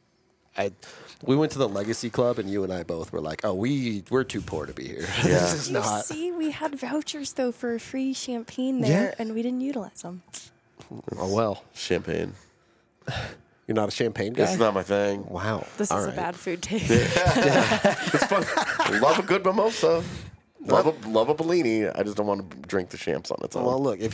we went to the Legacy Club, and you and I both were like, "Oh, we're too poor to be here. This is You not." see, we had vouchers though for free champagne there, Yeah. and we didn't utilize them. Oh well, Champagne. you're not a champagne guy. It's not my thing. Wow, This All is right. a bad food take. It's fun. Love a good mimosa. Love a Bellini. I just don't want to drink the champs on its own. Well, look, if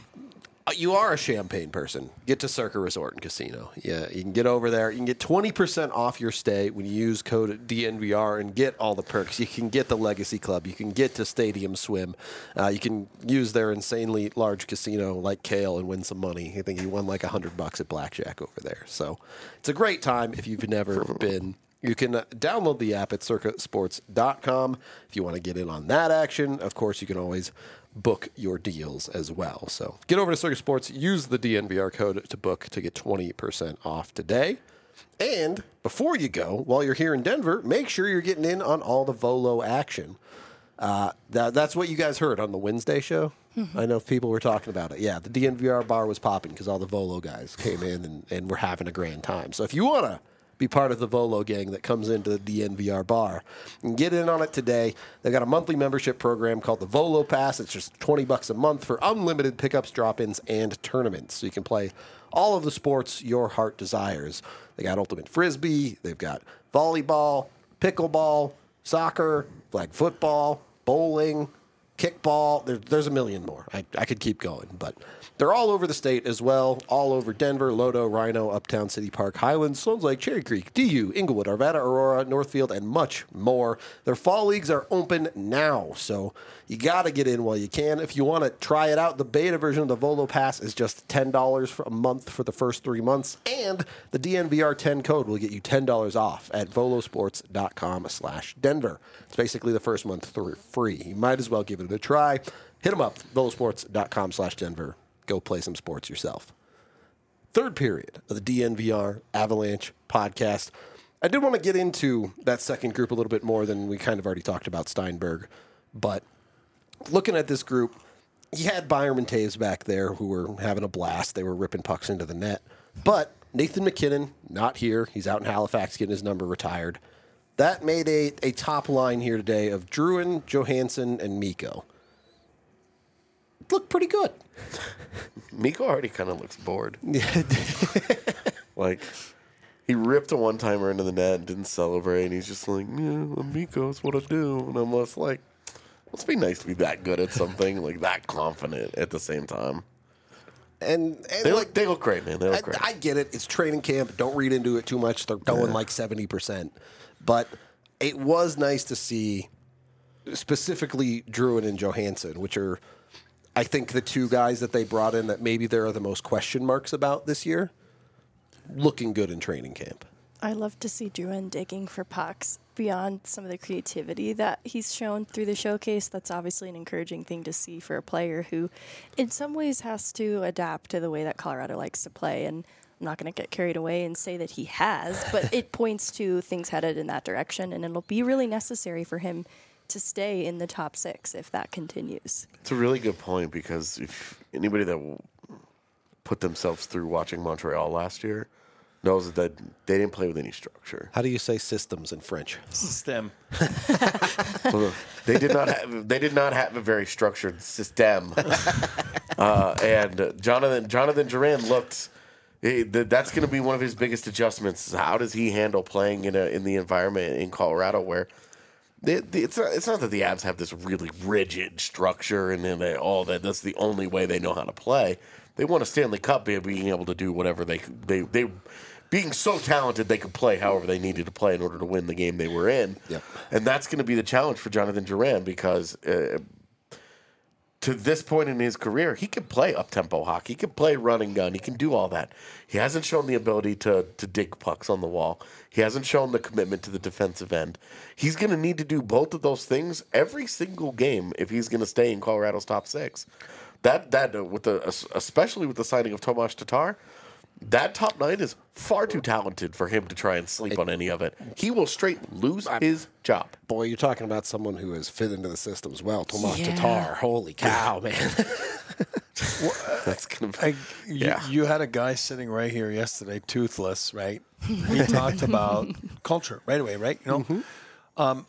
you are a champagne person, get to Circa Resort and Casino. Yeah, you can get over there. You can get 20% off your stay when you use code DNVR and get all the perks. You can get the Legacy Club. You can get to Stadium Swim. You can use their insanely large casino like Kale and win some money. I think he won like $100 at blackjack over there. So it's a great time if you've never been. You can download the app at circasports.com if you want to get in on that action. Of course, you can always book your deals as well. So get over to Circa Sports, use the DNVR code to book to get 20% off today. And before you go, while you're here in Denver, make sure you're getting in on all the Volo action. That's what you guys heard on the Wednesday show. I know people were talking about it. Yeah, the DNVR bar was popping because all the Volo guys came in and were having a grand time. So if you want to be part of the Volo gang that comes into the DNVR bar, and get in on it today. They've got a monthly membership program called the Volo Pass. It's just $20 a month for unlimited pickups, drop-ins, and tournaments. So you can play all of the sports your heart desires. They got Ultimate Frisbee. They've got volleyball, pickleball, soccer, flag football, bowling, kickball. There's a million more. I could keep going, but they're all over the state as well, all over Denver, Lodo, Rhino, Uptown City Park, Highlands, Sloan's Lake, Cherry Creek, DU, Inglewood, Arvada, Aurora, Northfield, and much more. Their fall leagues are open now, so you got to get in while you can. If you want to try it out, the beta version of the Volo Pass is just $10 for a month for the first 3 months, and the DNVR10 code will get you $10 off at volosports.com/Denver. It's basically the first month free. You might as well give it a try. Hit them up, volosports.com/Denver. Go play some sports yourself. Third period of the DNVR Avalanche podcast. I did want to get into that second group a little bit more than we kind of already talked about Steinberg. But looking at this group, you had Byram and Taves back there who were having a blast. They were ripping pucks into the net. But Nathan MacKinnon, not here. He's out in Halifax getting his number retired. That made a top line here today of Drouin, Johansson, and Mikko. Looked pretty good. Mikko already kind of looks bored. Like, he ripped a one-timer into the net and didn't celebrate, and he's just like, yeah, Mikko's what I do. And I'm just like, must be nice to be that good at something, like that confident at the same time. And They look great, man. They look great. I get it. It's training camp. Don't read into it too much. They're going like 70%. But it was nice to see specifically Drouin and Johansson, which are, I think, the two guys that they brought in that maybe there are the most question marks about this year, looking good in training camp. I love to see Drouin digging for pucks beyond some of the creativity that he's shown through the showcase. That's obviously an encouraging thing to see for a player who, in some ways, has to adapt to the way that Colorado likes to play. And I'm not going to get carried away and say that he has, but it points to things headed in that direction, and it'll be really necessary for him to stay in the top six if that continues. It's a really good point, because if anybody that put themselves through watching Montreal last year knows that they didn't play with any structure. How do you say systems in French? System. They did not have a very structured system. And Jonathan Duran looked. That's going to be one of his biggest adjustments. How does he handle playing in the environment in Colorado where it's not that the Avs have this really rigid structure and then that's the only way they know how to play. They won a Stanley Cup by being able to do whatever they being so talented they could play however they needed to play in order to win the game they were in. Yep. And that's going to be the challenge for Jonathan Duran, because to this point in his career, he can play up-tempo hockey. He can play run and gun. He can do all that. He hasn't shown the ability to dig pucks on the wall. He hasn't shown the commitment to the defensive end. He's going to need to do both of those things every single game if he's going to stay in Colorado's top six. especially with the signing of Tomas Tatar, that top 9 is far too talented for him to try and sleep on any of it. He will straight lose his job. Boy, you're talking about someone who has fit into the system as well. Tomas Yeah. Tatar. Holy cow, man. That's gonna be, You had a guy sitting right here yesterday, toothless, right? He talked about culture right away, right? You know,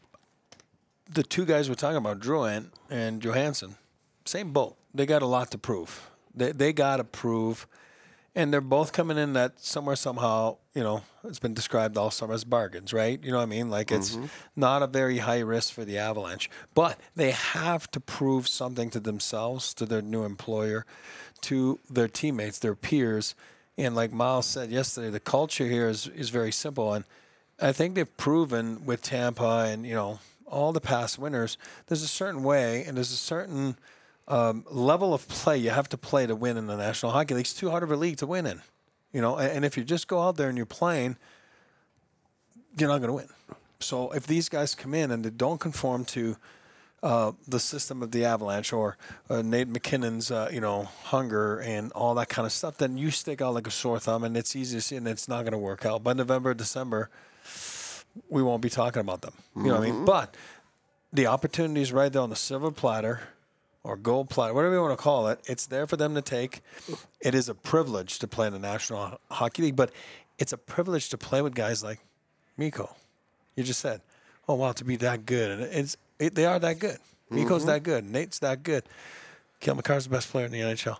the two guys we're talking about, Drouin and Johansson, same boat. They got a lot to prove. They got to prove, and they're both coming in that somewhere, somehow, you know, it's been described all summer as bargains, right? You know what I mean? Like it's not a very high risk for the Avalanche, but they have to prove something to themselves, to their new employer, to their teammates, their peers. And like Miles said yesterday, the culture here is very simple. And I think they've proven with Tampa and, you know, all the past winners, there's a certain way and there's a certain level of play you have to play to win in the National Hockey League. It's too hard of a league to win in, you know. And if you just go out there and you're playing, you're not going to win. So if these guys come in and they don't conform to the system of the Avalanche or Nate McKinnon's, you know, hunger and all that kind of stuff, then you stick out like a sore thumb, and it's easy to see, and it's not going to work out. By November, December, we won't be talking about them. You know what I mean? But the opportunity is right there on the silver platter or gold platter, whatever you want to call it. It's there for them to take. It is a privilege to play in the National Hockey League, but it's a privilege to play with guys like Mikko. You just said, oh, wow, to be that good. And they are that good. Mikko's that good. Nate's that good. Cale Makar's the best player in the NHL.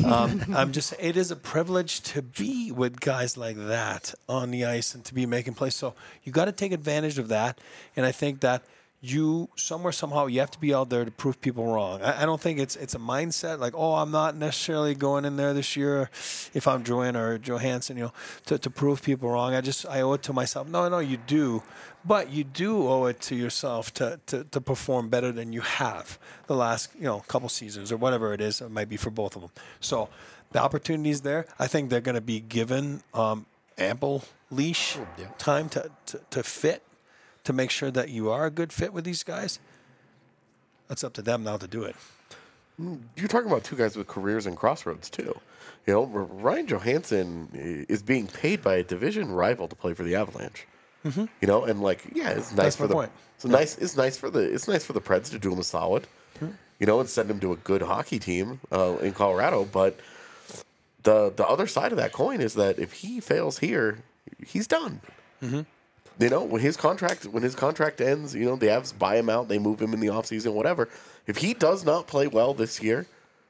It is a privilege to be with guys like that on the ice and to be making plays. So you got to take advantage of that. And I think that you somehow you have to be out there to prove people wrong. I don't think it's a mindset like, oh, I'm not necessarily going in there this year if I'm Drouin or Johansson, you know, to prove people wrong. I owe it to myself. No, you do. But you do owe it to yourself to perform better than you have the last, you know, couple seasons or whatever it is. It might be for both of them. So the opportunity is there. I think they're going to be given ample leash time to fit, to make sure that you are a good fit with these guys. That's up to them now to do it. you're talking about two guys with careers and crossroads too. You know, Ryan Johansson is being paid by a division rival to play for the Avalanche. Mm-hmm. You know, and like, yeah, it's nice for the point. It's nice for the Preds to do him a solid. Mm-hmm. You know, and send him to a good hockey team in Colorado. But the other side of that coin is that if he fails here, he's done. Mm-hmm. You know, when his contract ends, you know, the Avs buy him out, they move him in the offseason, whatever. If he does not play well this year,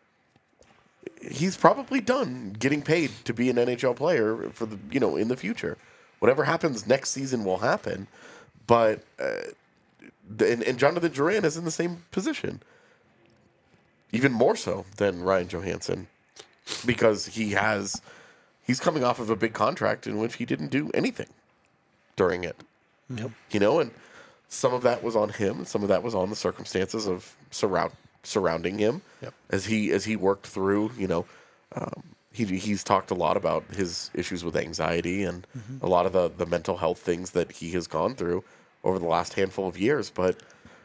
he's probably done getting paid to be an NHL player for the, you know, in the future. Whatever happens next season will happen. But and Jonathan Drouin is in the same position, even more so than Ryan Johansson, because he's coming off of a big contract in which he didn't do anything during it. Yep. You know, and some of that was on him, and some of that was on the circumstances of surrounding him. Yep. As he worked through, you know, he's talked a lot about his issues with anxiety and a lot of the mental health things that he has gone through over the last handful of years. But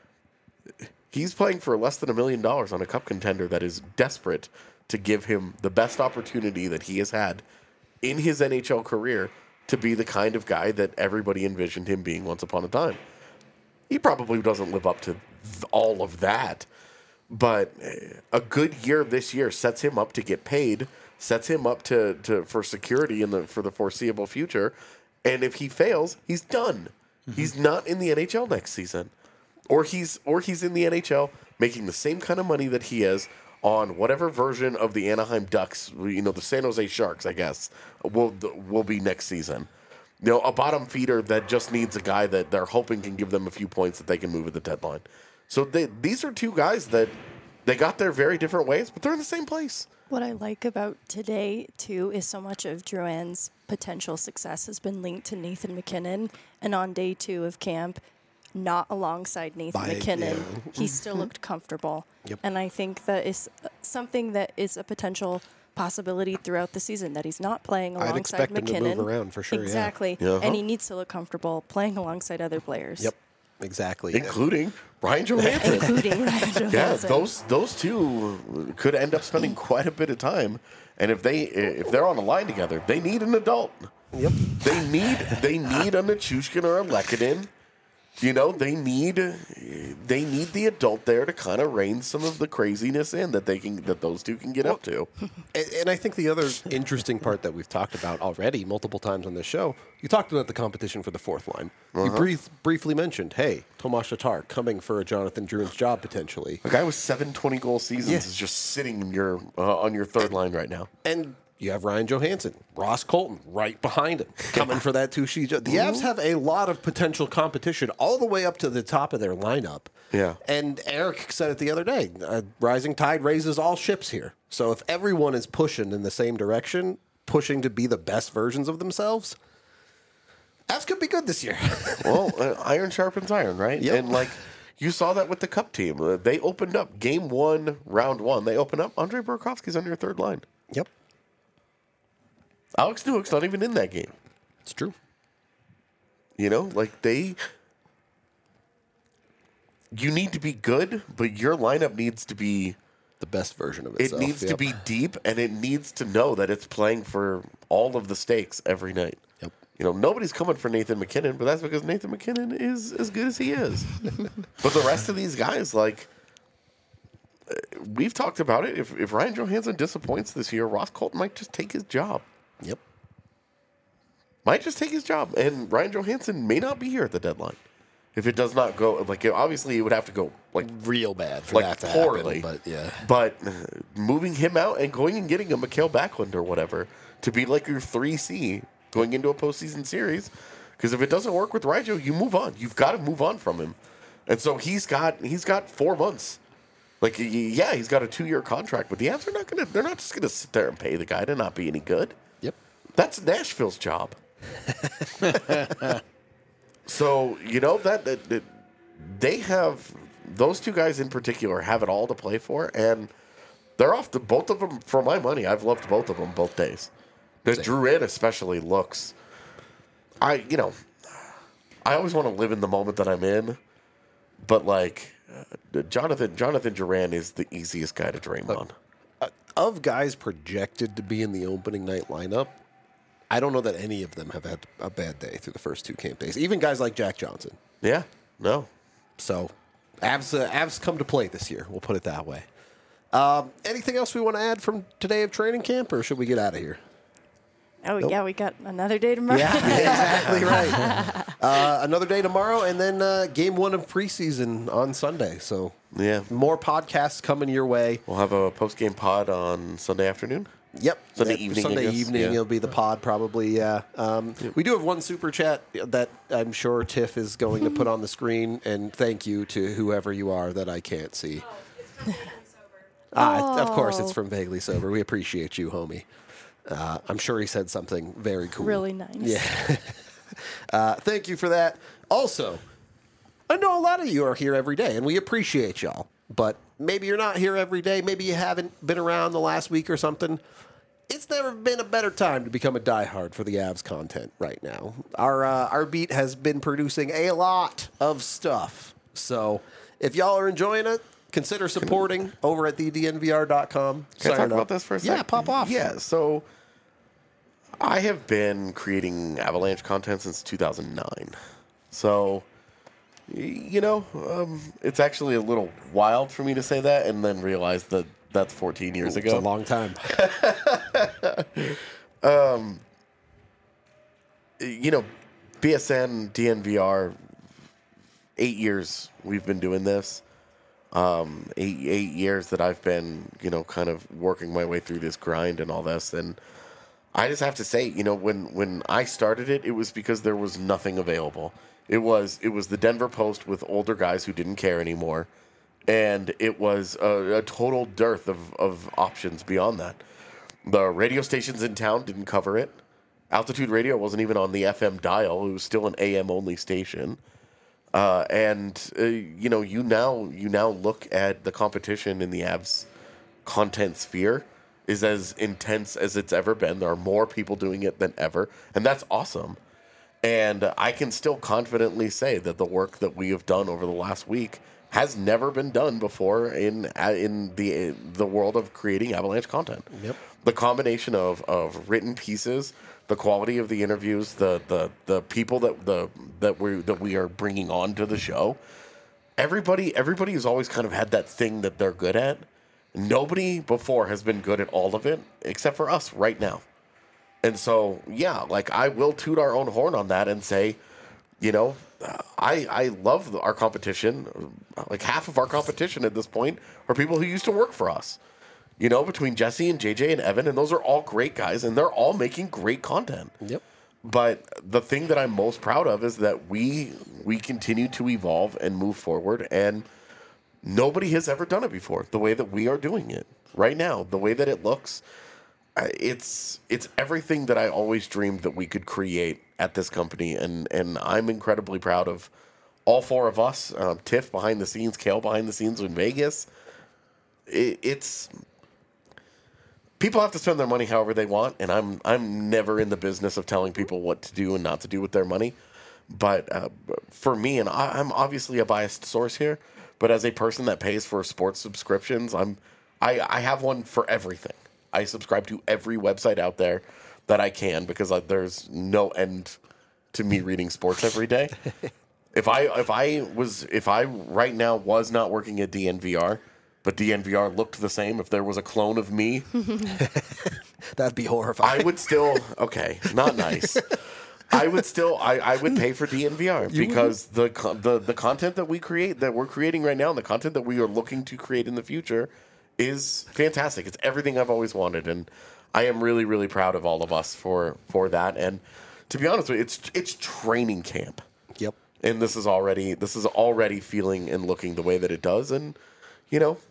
he's playing for less than $1 million on a cup contender that is desperate to give him the best opportunity that he has had in his NHL career to be the kind of guy that everybody envisioned him being once upon a time. He probably doesn't live up to all of that, but a good year this year sets him up to get paid, sets him up to for security for the foreseeable future. And if he fails, he's done. Mm-hmm. He's not in the NHL next season, or he's in the NHL making the same kind of money that he is on whatever version of the Anaheim Ducks, you know, the San Jose Sharks, I guess, will be next season. You know, a bottom feeder that just needs a guy that they're hoping can give them a few points that they can move at the deadline. So these are two guys that they got their very different ways, but they're in the same place. What I like about today, too, is so much of Drouin's potential success has been linked to Nathan MacKinnon. And on day 2 of camp, not alongside Nathan MacKinnon, he still looked comfortable. Yep. And I think that is something that is a potential possibility throughout the season, that he's not playing alongside MacKinnon. I'd expect him to move around for sure. Exactly. Yeah. And he needs to look comfortable playing alongside other players. Yep. exactly. including Ryan Johansson. including Ryan Yeah, Johansson. those two could end up spending quite a bit of time, and if they're on a line together, they need an adult. Yep. They need a Nichushkin or a Lekanen. You know, they need the adult there to kind of rein some of the craziness in that those two can get up to. And I think the other interesting part that we've talked about already multiple times on this show, you talked about the competition for the fourth line. You briefly mentioned, hey, Tomas Tatar coming for a Jonathan Drouin's job potentially. A guy with 7 20-goal seasons is just sitting in your on your third line right now. And you have Ryan Johansson, Ross Colton right behind him, coming for that two-sheet job. The Avs have a lot of potential competition all the way up to the top of their lineup. Yeah. And Eric said it the other day, rising tide raises all ships here. So if everyone is pushing in the same direction, pushing to be the best versions of themselves, Avs could be good this year. Well, iron sharpens iron, right? Yep. And like you saw that with the Cup team. They opened up game 1, round 1. They opened up. Andrei Burakovsky's on your third line. Yep. Alex Newhook's not even in that game. It's true. You know, like you need to be good, but your lineup needs to be, The best version of it itself. needs to Yep. be deep, and it needs to know that it's playing for all of the stakes every night. Yep. You know, nobody's coming for Nathan McKinnon, but that's because Nathan McKinnon is as good as he is. But the rest of these guys, like, we've talked about it. If Ryan Johansson disappoints this year, Ross Colton might just take his job. Yep. Might just take his job. And Ryan Johansson may not be here at the deadline. If it does not go, like, obviously it would have to go, like, Real bad for like that to poorly. happen. But yeah. But moving him out and going and getting a Mikhail Backlund or whatever to be like your 3C going into a postseason series, because if it doesn't work with Raijo, you move on. You've got to move on from him. And so he's got 4 months. Like, yeah, he's got a 2-year contract, but the Avs are they're not just gonna sit there and pay the guy to not be any good. Yep. That's Nashville's job. So, you know, that they have, those two guys in particular have it all to play for, and they're off to both of them for my money. I've loved both of them both days. The Drouin especially looks, I always want to live in the moment that I'm in, but like Jonathan Drouin is the easiest guy to dream on. Of guys projected to be in the opening night lineup, I don't know that any of them have had a bad day through the first 2 camp days. Even guys like Jack Johnson. Yeah, no. So, Avs come to play this year. We'll put it that way. Anything else we want to add from today of training camp, or should we get out of here? Oh, yeah, we got another day tomorrow. Yeah, exactly right. Another day tomorrow, and then game 1 of preseason on Sunday. So, Yeah. more podcasts coming your way. We'll have a post-game pod on Sunday afternoon. Yep. Sunday evening, I Sunday guess. evening, Yeah. it'll be the pod probably, yeah. We do have one super chat that I'm sure Tiff is going to put on the screen, and thank you to whoever you are that I can't see. Of course, it's from Vaguely Sober. We appreciate you, homie. I'm sure he said something very cool. Really nice. Yeah. Thank you for that. Also, I know a lot of you are here every day, and we appreciate y'all. But maybe you're not here every day. Maybe you haven't been around the last week or something. It's never been a better time to become a diehard for the Avs content right now. Our beat has been producing a lot of stuff. So if y'all are enjoying it, consider supporting over at thednvr.com. Can I talk about this for a second? Yeah, pop off. Yeah, so I have been creating Avalanche content since 2009. So, you know, it's actually a little wild for me to say that and then realize that that's 14 years It's ago. a long time. You know, BSN, DNVR, 8 years we've been doing this. 8 years that I've been, you know, kind of working my way through this grind and all this. And I just have to say, you know, when I started it, it was because there was nothing available. It was the Denver Post with older guys who didn't care anymore. And it was a total dearth of options beyond that. The radio stations in town didn't cover it. Altitude Radio wasn't even on the FM dial. It was still an AM-only station. You know, you now look at the competition in the Avs content sphere is as intense as it's ever been. There are more people doing it than ever, and that's awesome. And I can still confidently say that the work that we have done over the last week has never been done before in the world of creating Avalanche content. Yep. The combination of written pieces, the quality of the interviews, the people that we are bringing on to the show. Everybody has always kind of had that thing that they're good at. Nobody before has been good at all of it except for us right now. And so, yeah, like I will toot our own horn on that and say, you know, I love our competition. Like half of our competition at this point are people who used to work for us. You know, between Jesse and JJ and Evan, and those are all great guys, and they're all making great content. Yep. But the thing that I'm most proud of is that we continue to evolve and move forward, and nobody has ever done it before the way that we are doing it right now, the way that it looks. It's everything that I always dreamed that we could create at this company, and I'm incredibly proud of all four of us. Tiff behind the scenes, Kale behind the scenes in Vegas. It's people have to spend their money however they want, and I'm never in the business of telling people what to do and not to do with their money. But for me, and I'm obviously a biased source here, but as a person that pays for sports subscriptions, I have one for everything. I subscribe to every website out there that I can because there's no end to me reading sports every day. If I right now was not working at DNVR, but DNVR looked the same, if there was a clone of me, That'd be horrifying. I would still not nice. I would still I would pay for DNVR because the content that we're creating right now, and the content that we are looking to create in the future is fantastic. It's everything I've always wanted, and I am really, really proud of all of us for that. And to be honest with you, it's training camp. Yep. And this is already feeling and looking the way that it does, and you know,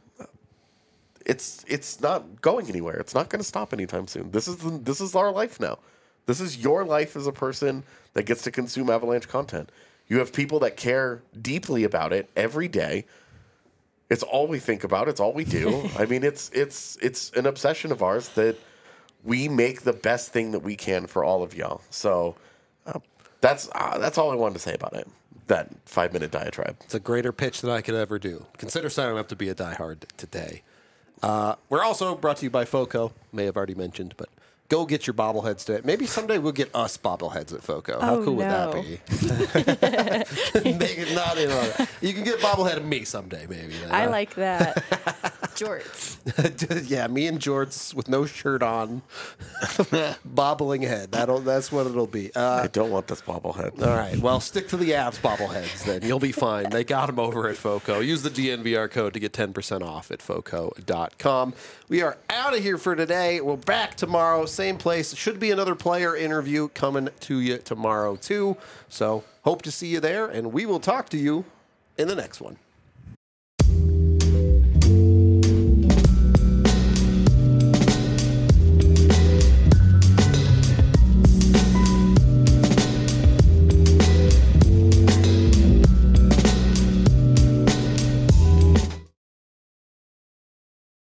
it's not going anywhere. It's not going to stop anytime soon. This is our life now. This is your life as a person that gets to consume Avalanche content. You have people that care deeply about it every day. It's all we think about. It's all we do. I mean, it's an obsession of ours that we make the best thing that we can for all of y'all. So that's all I wanted to say about it. That 5-minute diatribe. It's a greater pitch than I could ever do. Consider signing up to be a diehard today. We're also brought to you by FOCO. May have already mentioned, but go get your bobbleheads today. Maybe someday we'll get us bobbleheads at FOCO. How cool would that be? Make it not in on it. You can get a bobblehead of me someday, maybe. I like that. Jorts. Yeah, me and Jorts with no shirt on, bobbling head. That's what it'll be. I don't want this bobblehead. All right. Well, stick to the Avs bobbleheads then. You'll be fine. They got them over at FOCO. Use the DNVR code to get 10% off at FOCO.com. We are out of here for today. We're back tomorrow. Same place. Should be another player interview coming to you tomorrow, too. So hope to see you there, and we will talk to you in the next one.